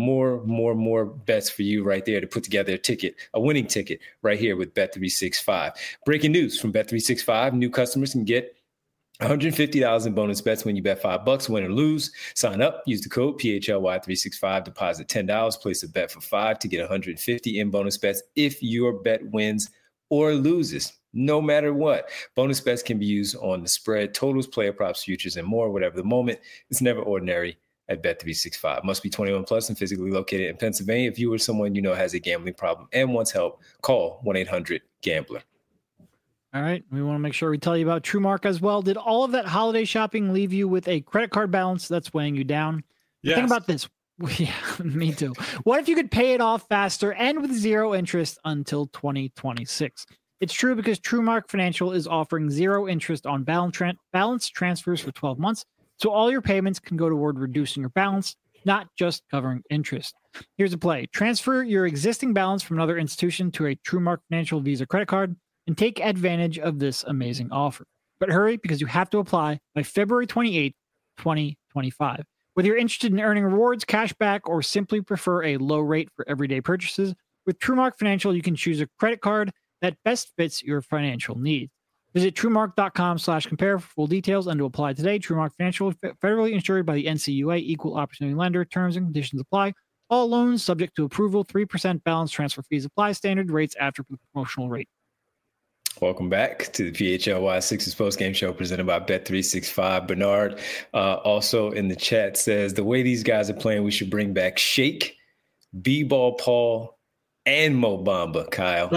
bets for you right there to put together a winning ticket right here with Bet365. Breaking news from Bet365, new customers can get $150 in bonus bets when you bet $5, win or lose. Sign up, use the code PHLY365, deposit $10, place a bet for $5 to get $150 in bonus bets if your bet wins or loses, no matter what. Bonus bets can be used on the spread, totals, player props, futures, and more, whatever the moment. It's never ordinary at Bet365. Must be 21 plus and physically located in Pennsylvania. If you or someone you know has a gambling problem and wants help, call 1-800-GAMBLER.
All right. We want to make sure we tell you about TrueMark as well. Did all of that holiday shopping leave you with a credit card balance that's weighing you down?
Yes.
Think about this. Yeah, me too. What if you could pay it off faster and with zero interest until 2026? It's true because TrueMark Financial is offering zero interest on balance transfers for 12 months. So all your payments can go toward reducing your balance, not just covering interest. Here's a play. Transfer your existing balance from another institution to a TrueMark Financial Visa credit card and take advantage of this amazing offer. But hurry, because you have to apply by February 28th, 2025. Whether you're interested in earning rewards, cash back, or simply prefer a low rate for everyday purchases, with TrueMark Financial, you can choose a credit card that best fits your financial needs. Visit TrueMark.com/compare for full details and to apply today. TrueMark Financial, federally insured by the NCUA, equal opportunity lender. Terms and conditions apply. All loans subject to approval. 3% balance transfer fees apply. Standard rates after the promotional rate.
Welcome back to the PHLY Sixers postgame show presented by Bet365. Bernard also in the chat says, the way these guys are playing, we should bring back Shake, B-Ball Paul, and Mo Bamba, Kyle.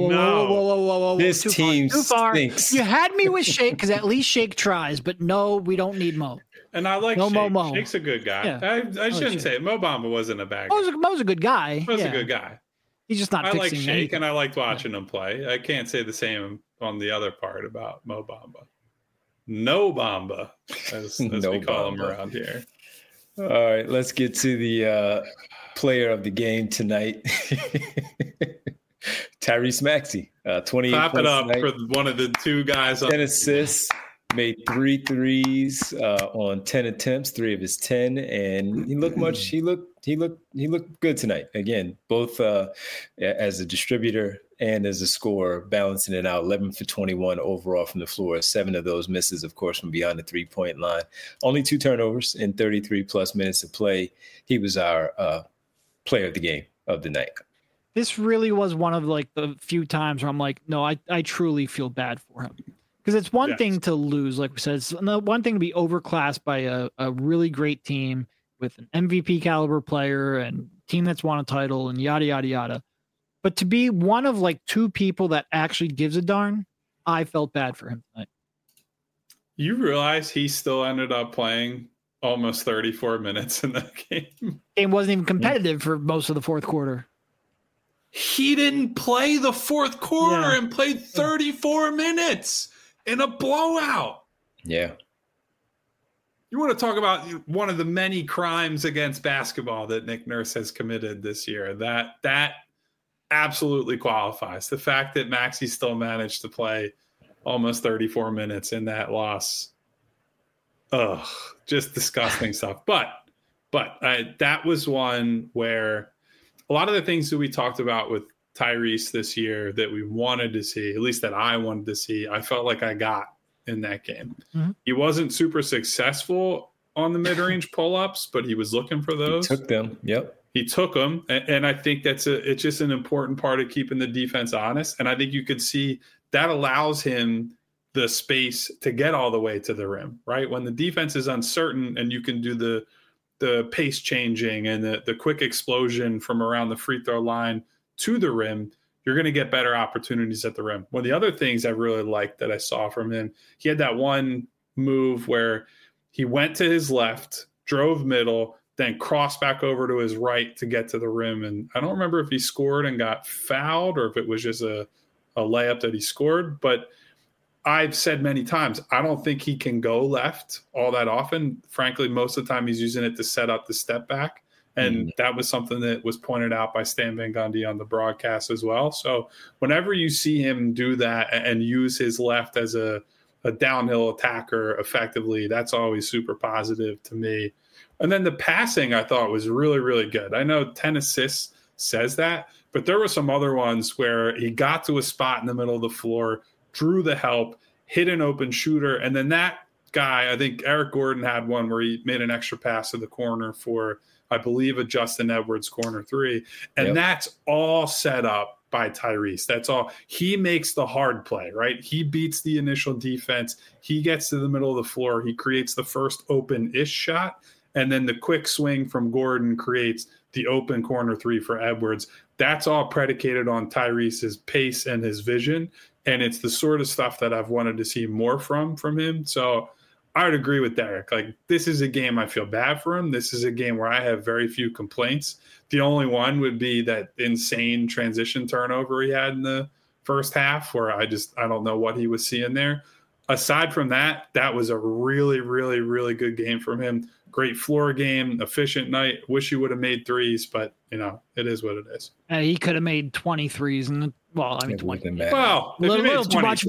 Whoa.
This team
too far.
stinks.
You had me with Shake because at least Shake tries, but no, we don't need Mo.
And I like
no
Shake.
Mo.
Shake's a good guy.
Yeah.
I shouldn't say it. Mo Bamba wasn't a bad guy.
Mo's a good guy.
Mo's a good guy.
He's just not
I
fixing
like Shake,
anything.
and I liked watching him play. I can't say the same on the other part about Mo Bamba. No Bamba, as
No
we call him
Bamba.
around here.
All right, let's get to the player of the game tonight. Tyrese Maxey, 28
Clap
points
it up
tonight,
for one of the two guys.
10 assists, made 3 threes on 10 attempts, 3 of his 10, and he looked good tonight. Again, both as a distributor and as a scorer, balancing it out. 11 for 21 overall from the floor. 7 of those misses, of course, from beyond the three-point line. Only 2 turnovers in 33 plus minutes of play. He was our player of the game of the night.
This really was one of like the few times where I'm like, no, I truly feel bad for him. Because it's one thing to lose, like we said, it's one thing to be overclassed by a really great team with an MVP caliber player and team that's won a title and yada, yada, yada. But to be one of like 2 people that actually gives a darn, I felt bad for him tonight.
You realize he still ended up playing almost 34 minutes in that game.
Game wasn't even competitive for most of the fourth quarter.
He didn't play the fourth quarter and played 34 minutes in a blowout.
Yeah.
You want to talk about one of the many crimes against basketball that Nick Nurse has committed this year. That absolutely qualifies. The fact that Maxey still managed to play almost 34 minutes in that loss, just disgusting stuff. But that was one where a lot of the things that we talked about with Tyrese this year that we wanted to see, at least that I wanted to see, I felt like I got in that game. Mm-hmm. He wasn't super successful on the mid-range pull-ups, but he was looking for those.
He took them. Yep.
He took them. And I think it's just an important part of keeping the defense honest. And I think you could see that allows him the space to get all the way to the rim, right? When the defense is uncertain and you can do the pace changing and the quick explosion from around the free throw line to the rim, you're going to get better opportunities at the rim. One of the other things I really liked that I saw from him, he had that one move where he went to his left, drove middle, then crossed back over to his right to get to the rim. And I don't remember if he scored and got fouled or if it was just a layup that he scored. But I've said many times, I don't think he can go left all that often. Frankly, most of the time he's using it to set up the step back. And that was something that was pointed out by Stan Van Gundy on the broadcast as well. So whenever you see him do that and use his left as a downhill attacker effectively, that's always super positive to me. And then the passing I thought was really, really good. I know 10 assists says that, but there were some other ones where he got to a spot in the middle of the floor, drew the help, hit an open shooter. And then that guy, I think Eric Gordon had one where he made an extra pass to the corner for, I believe, a Justin Edwards corner three. And that's all set up by Tyrese. That's all. He makes the hard play, right? He beats the initial defense. He gets to the middle of the floor. He creates the first open-ish shot. And then the quick swing from Gordon creates the open corner three for Edwards. That's all predicated on Tyrese's pace and his vision. And it's the sort of stuff that I've wanted to see more from him. So I would agree with Derek. Like, this is a game I feel bad for him. This is a game where I have very few complaints. The only one would be that insane transition turnover he had in the first half where I don't know what he was seeing there. Aside from that, that was a really, really, really good game from him. Great floor game, efficient night. Wish he would have made threes, but, it is what it is.
He could have made 23s. And 20.
Well,
a little too much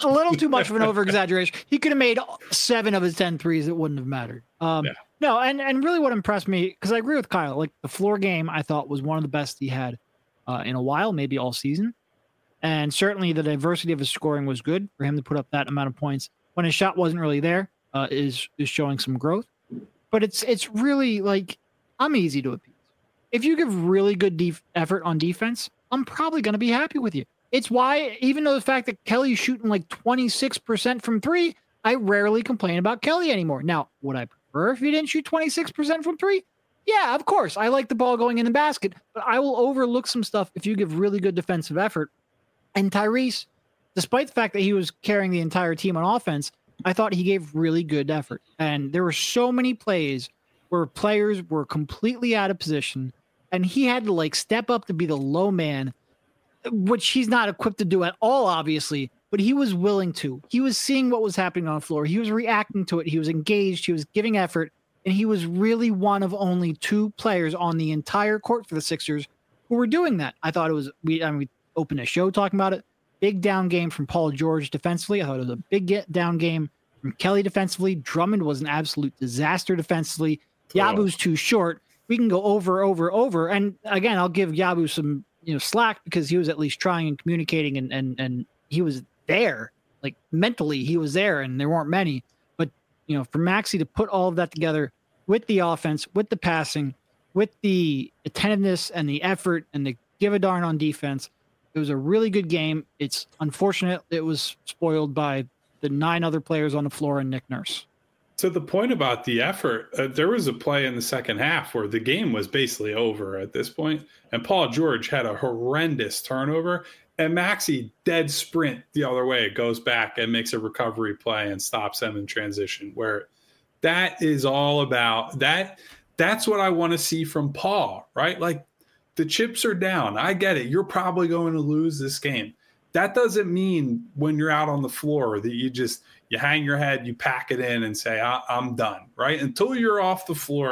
of an over-exaggeration. He could have made 7 of his 10 threes. It wouldn't have mattered. No, and really what impressed me, because I agree with Kyle, like the floor game I thought was one of the best he had in a while, maybe all season. And certainly the diversity of his scoring was good for him to put up that amount of points. When his shot wasn't really there, is showing some growth. But it's really like, I'm easy to appease. If you give really good effort on defense, I'm probably going to be happy with you. It's why, even though the fact that Kelly's shooting like 26% from 3, I rarely complain about Kelly anymore. Now, would I prefer if he didn't shoot 26% from 3? Yeah, of course. I like the ball going in the basket, but I will overlook some stuff if you give really good defensive effort. And Tyrese, despite the fact that he was carrying the entire team on offense, I thought he gave really good effort. And there were so many plays where players were completely out of position, and he had to step up to be the low man, which he's not equipped to do at all, obviously, but he was willing to. He was seeing what was happening on the floor. He was reacting to it. He was engaged. He was giving effort. And he was really one of only 2 players on the entire court for the Sixers who were doing that. I thought it was, we opened a show talking about it. Big down game from Paul George defensively. I thought it was a big down game from Kelly defensively. Drummond was an absolute disaster defensively. Yabu's too short. We can go over. And again, I'll give Yabu some slack because he was at least trying and communicating and he was there. Like mentally, he was there, and there weren't many. But for Maxey to put all of that together with the offense, with the passing, with the attentiveness and the effort and the give a darn on defense, it was a really good game. It's unfortunate it was spoiled by the 9 other players on the floor and Nick Nurse.
To the point about the effort, there was a play in the second half where the game was basically over at this point, and Paul George had a horrendous turnover, and Maxey dead sprint the other way, goes back and makes a recovery play and stops them in transition, where that is all about that. That's what I want to see from Paul, right? Like, the chips are down. I get it. You're probably going to lose this game. That doesn't mean when you're out on the floor that you hang your head, you pack it in and say, I'm done, right? Until you're off the floor,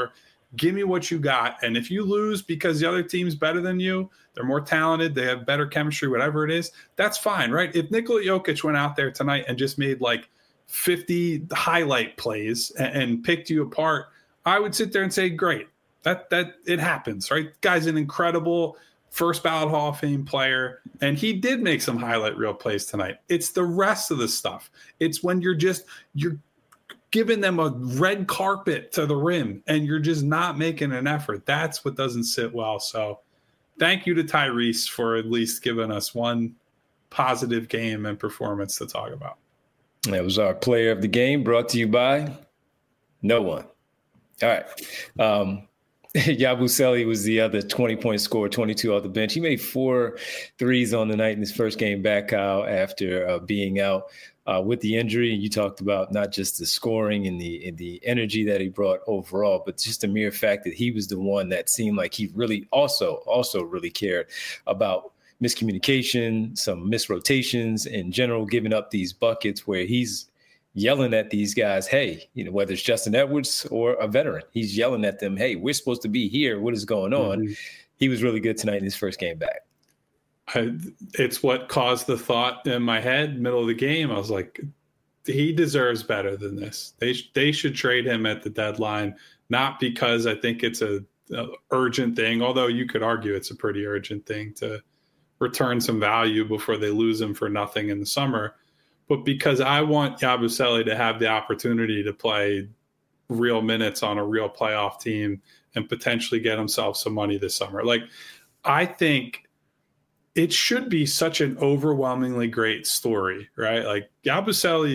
Give me what you got. And if you lose because the other team's better than you, they're more talented, they have better chemistry, whatever it is, that's fine, right? If Nikola Jokic went out there tonight and just made like 50 highlight plays and picked you apart, I would sit there and say, great. That it happens, right? Guy's an incredible first ballot Hall of Fame player, and he did make some highlight reel plays tonight. It's the rest of the stuff. It's when you're giving them a red carpet to the rim and you're just not making an effort. That's what doesn't sit well. So thank you to Tyrese for at least giving us one positive game and performance to talk about.
That was our player of the game, brought to you by no one. All right. Yabusele was the other 20-point scorer, 22 off the bench. He made 4 threes on the night in his first game back, Kyle, after being out with the injury. And you talked about not just the scoring and the energy that he brought overall, but just the mere fact that he was the one that seemed like he really also really cared about miscommunication, some misrotations in general, giving up these buckets where he's yelling at these guys, hey, whether it's Justin Edwards or a veteran, he's yelling at them, hey, we're supposed to be here. What is going on? Mm-hmm. He was really good tonight in his first game back.
It's what caused the thought in my head, middle of the game. I was like, he deserves better than this. They should trade him at the deadline, not because I think it's a urgent thing, although you could argue it's a pretty urgent thing to return some value before they lose him for nothing in the summer, but because I want Yabusele to have the opportunity to play real minutes on a real playoff team and potentially get himself some money this summer. Like, I think it should be such an overwhelmingly great story, right? Like Yabusele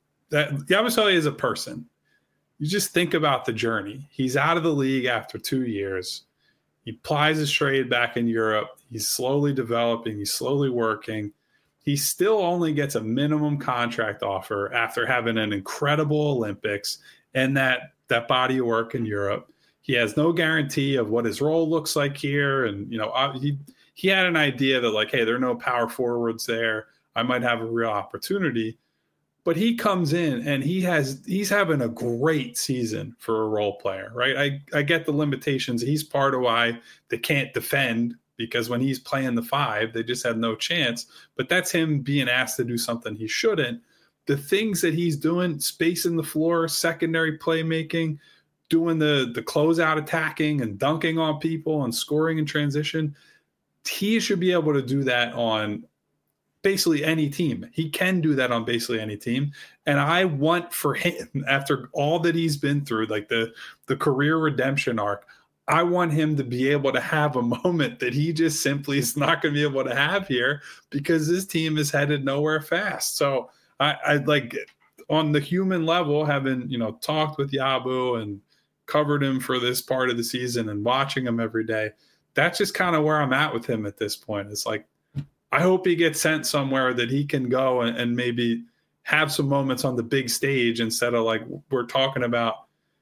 is a person. You just think about the journey. He's out of the league after 2 years. He plies his trade back in Europe. He's slowly developing. He's slowly working. He still only gets a minimum contract offer after having an incredible Olympics and that body of work in Europe. He has no guarantee of what his role looks like here. And, he had an idea that like, hey, there are no power forwards there. I might have a real opportunity. But he comes in and he's having a great season for a role player, right? I get the limitations. He's part of why they can't defend, because when he's playing the 5, they just have no chance. But that's him being asked to do something he shouldn't. The things that he's doing, spacing the floor, secondary playmaking, doing the closeout attacking and dunking on people and scoring in transition, he should be able to do that on basically any team. He can do that on basically any team. And I want for him, after all that he's been through, like the career redemption arc, I want him to be able to have a moment that he just simply is not going to be able to have here because this team is headed nowhere fast. So I like, on the human level, having, talked with Yabu and covered him for this part of the season and watching him every day, that's just kind of where I'm at with him at this point. It's like, I hope he gets sent somewhere that he can go and maybe have some moments on the big stage instead of like we're talking about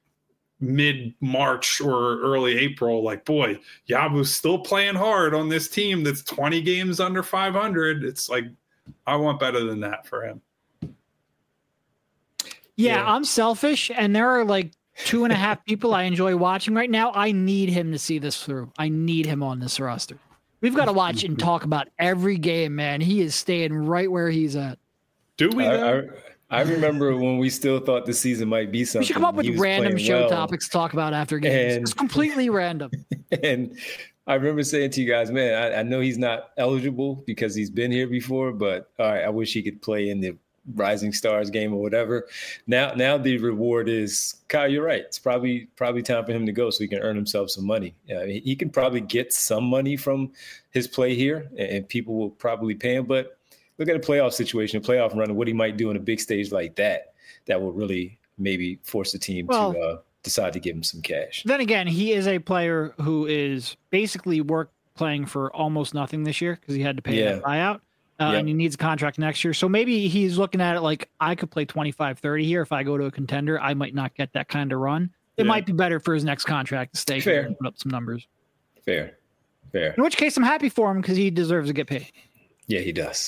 mid-March or early April. Like, boy, Yabu's still playing hard on this team that's 20 games under 500. It's like, I want better than that for him.
Yeah, I'm selfish, and there are like 2.5 people I enjoy watching right now. I need him to see this through. I need him on this roster. We've got to watch and talk about every game, man. He is staying right where he's at.
Do we?
I remember when we still thought the season might be something.
We should come up with random show topics to talk about after games. It's completely random.
And I remember saying to you guys, man, I know he's not eligible because he's been here before, but all right, I wish he could play in the Rising Stars game or whatever. Now the reward is, Kyle, you're right. It's probably time for him to go so he can earn himself some money. He can probably get some money from his play here, and people will probably pay him. But look at a playoff situation, a playoff run, and what he might do on a big stage like that will really maybe force the team to decide to give him some cash.
Then again, he is a player who is basically playing for almost nothing this year because he had to pay that buyout. And he needs a contract next year. So maybe he's looking at it like, I could play 25-30 here. If I go to a contender, I might not get that kind of run. It might be better for his next contract to stay here and put up some numbers.
Fair.
In which case, I'm happy for him because he deserves to get paid.
Yeah, he does.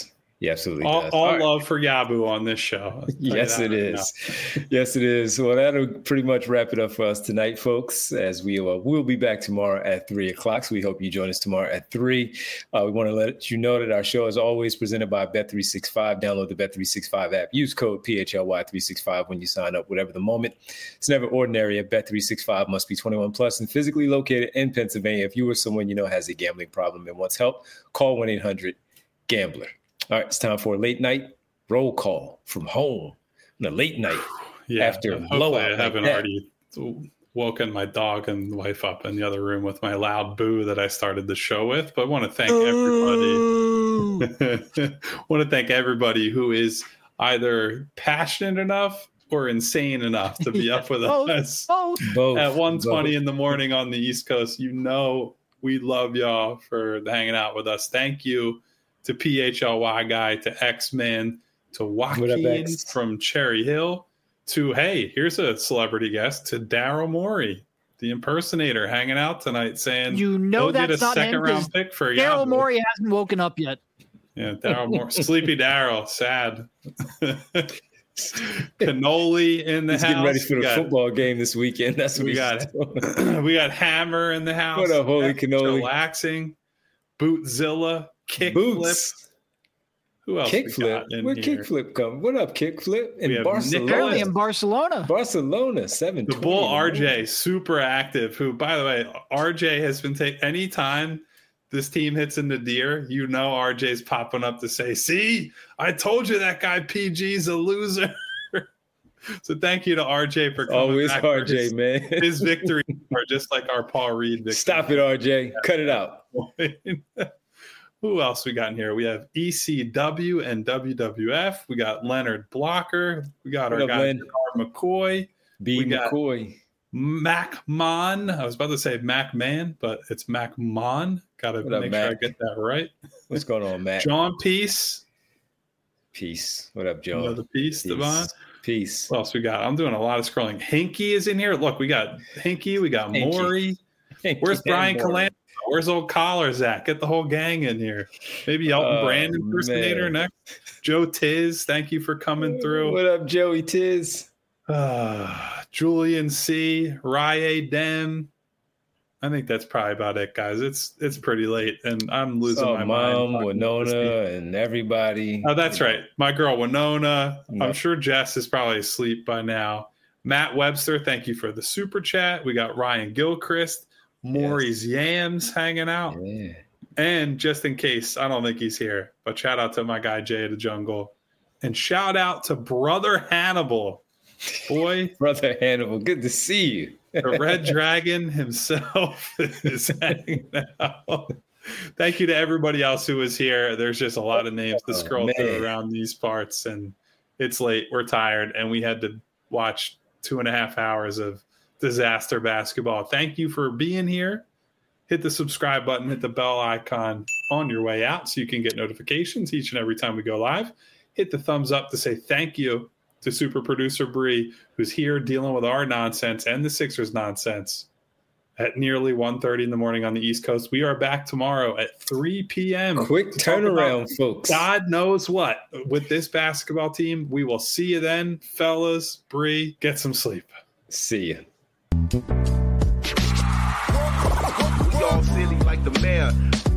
He absolutely does.
All love for Yabu on this show.
Yes, it is. Yes, it is. Well, that'll pretty much wrap it up for us tonight, folks, as we'll be back tomorrow at 3 o'clock. So we hope you join us tomorrow at 3. We want to let you know that our show is always presented by Bet365. Download the Bet365 app. Use code PHLY365 when you sign up, whatever the moment. It's never ordinary at Bet365. Must be 21 plus and physically located in Pennsylvania. If you or someone you know has a gambling problem and wants help, call 1-800-GAMBLER. All right, it's time for a late night roll call from home. On a late night after a blowout.
I haven't already woken my dog and wife up in the other room with my loud boo that I started the show with. But I want to thank everybody. Want to thank everybody who is either passionate enough or insane enough to be up with us
both.
At 1:20 in the morning on the East Coast. You know we love y'all for hanging out with us. Thank you to PHLY Guy, to X-Man, to Joaquin from Cherry Hill, to, hey, here's a celebrity guest, to Daryl Morey, the impersonator, hanging out tonight saying,
you know, that's
get a
not
second-round pick for
Daryl Morey hasn't woken up yet.
Yeah, Daryl Morey. Sleepy Daryl, sad. Cannoli in the house.
Getting ready for the football game this weekend. That's what
we got. We got Hammer in the house.
What up, holy cannoli?
Relaxing. Bootzilla. Kickflip. Who else?
Kickflip. Where Kickflip come? What up, Kickflip? In Barcelona.
Apparently in Barcelona.
Barcelona, 7.
The Bull RJ, super active. Who, by the way, RJ has been taking any time this team hits in the deer, you know RJ's popping up to say, "See, I told you that guy PG's a loser." So thank you to RJ for coming
always
back
RJ, man.
His victory, or just like our Paul Reed victory.
Stop it, RJ. Cut it out.
Who else we got in here? We have ECW and WWF. We got Leonard Blocker. We got our guy McCoy.
McCoy.
Mac Mon. I was about to say Mac Man, but it's Mac Mon. Got to make sure I get that right.
What's going on, Mac?
John Peace.
Peace. What up, John?
Another Peace, Devon.
Peace.
What else we got? I'm doing a lot of scrolling. Hinky is in here. Look, we got Hinky. We got Maury. Where's Brian Calan? Where's old Collar Zach? Get the whole gang in here. Maybe Elton Brand impersonator next. Joe Tiz, thank you for coming through.
What up, Joey Tiz?
Julian C. Rye Dem. I think that's probably about it, guys. It's pretty late, and I'm losing my mind.
Mom, Winona, and everybody.
Oh, that's right. My girl, Winona. No. I'm sure Jess is probably asleep by now. Matt Webster, thank you for the super chat. We got Ryan Gilchrist. Maury's Yams hanging out.
Yeah.
And just in case, I don't think he's here, but shout out to my guy Jay of the Jungle. And shout out to Brother Hannibal. Boy.
Brother Hannibal, good to see you.
The Red Dragon himself is hanging out. Thank you to everybody else who was here. There's just a lot of names to scroll through around these parts, and it's late. We're tired, and we had to watch 2.5 hours of disaster basketball. Thank you for being here. Hit the subscribe button, hit the bell icon on your way out so you can get notifications each and every time we go live. Hit the thumbs up to say thank you to super producer Bree, who's here dealing with our nonsense and the Sixers nonsense at nearly 1:30 in the morning on the East Coast. We are back tomorrow at 3 p.m.
Quick turnaround, folks.
God knows what with this basketball team. We will see you then, fellas. Bree, get some sleep.
See ya.
We all silly like the mayor.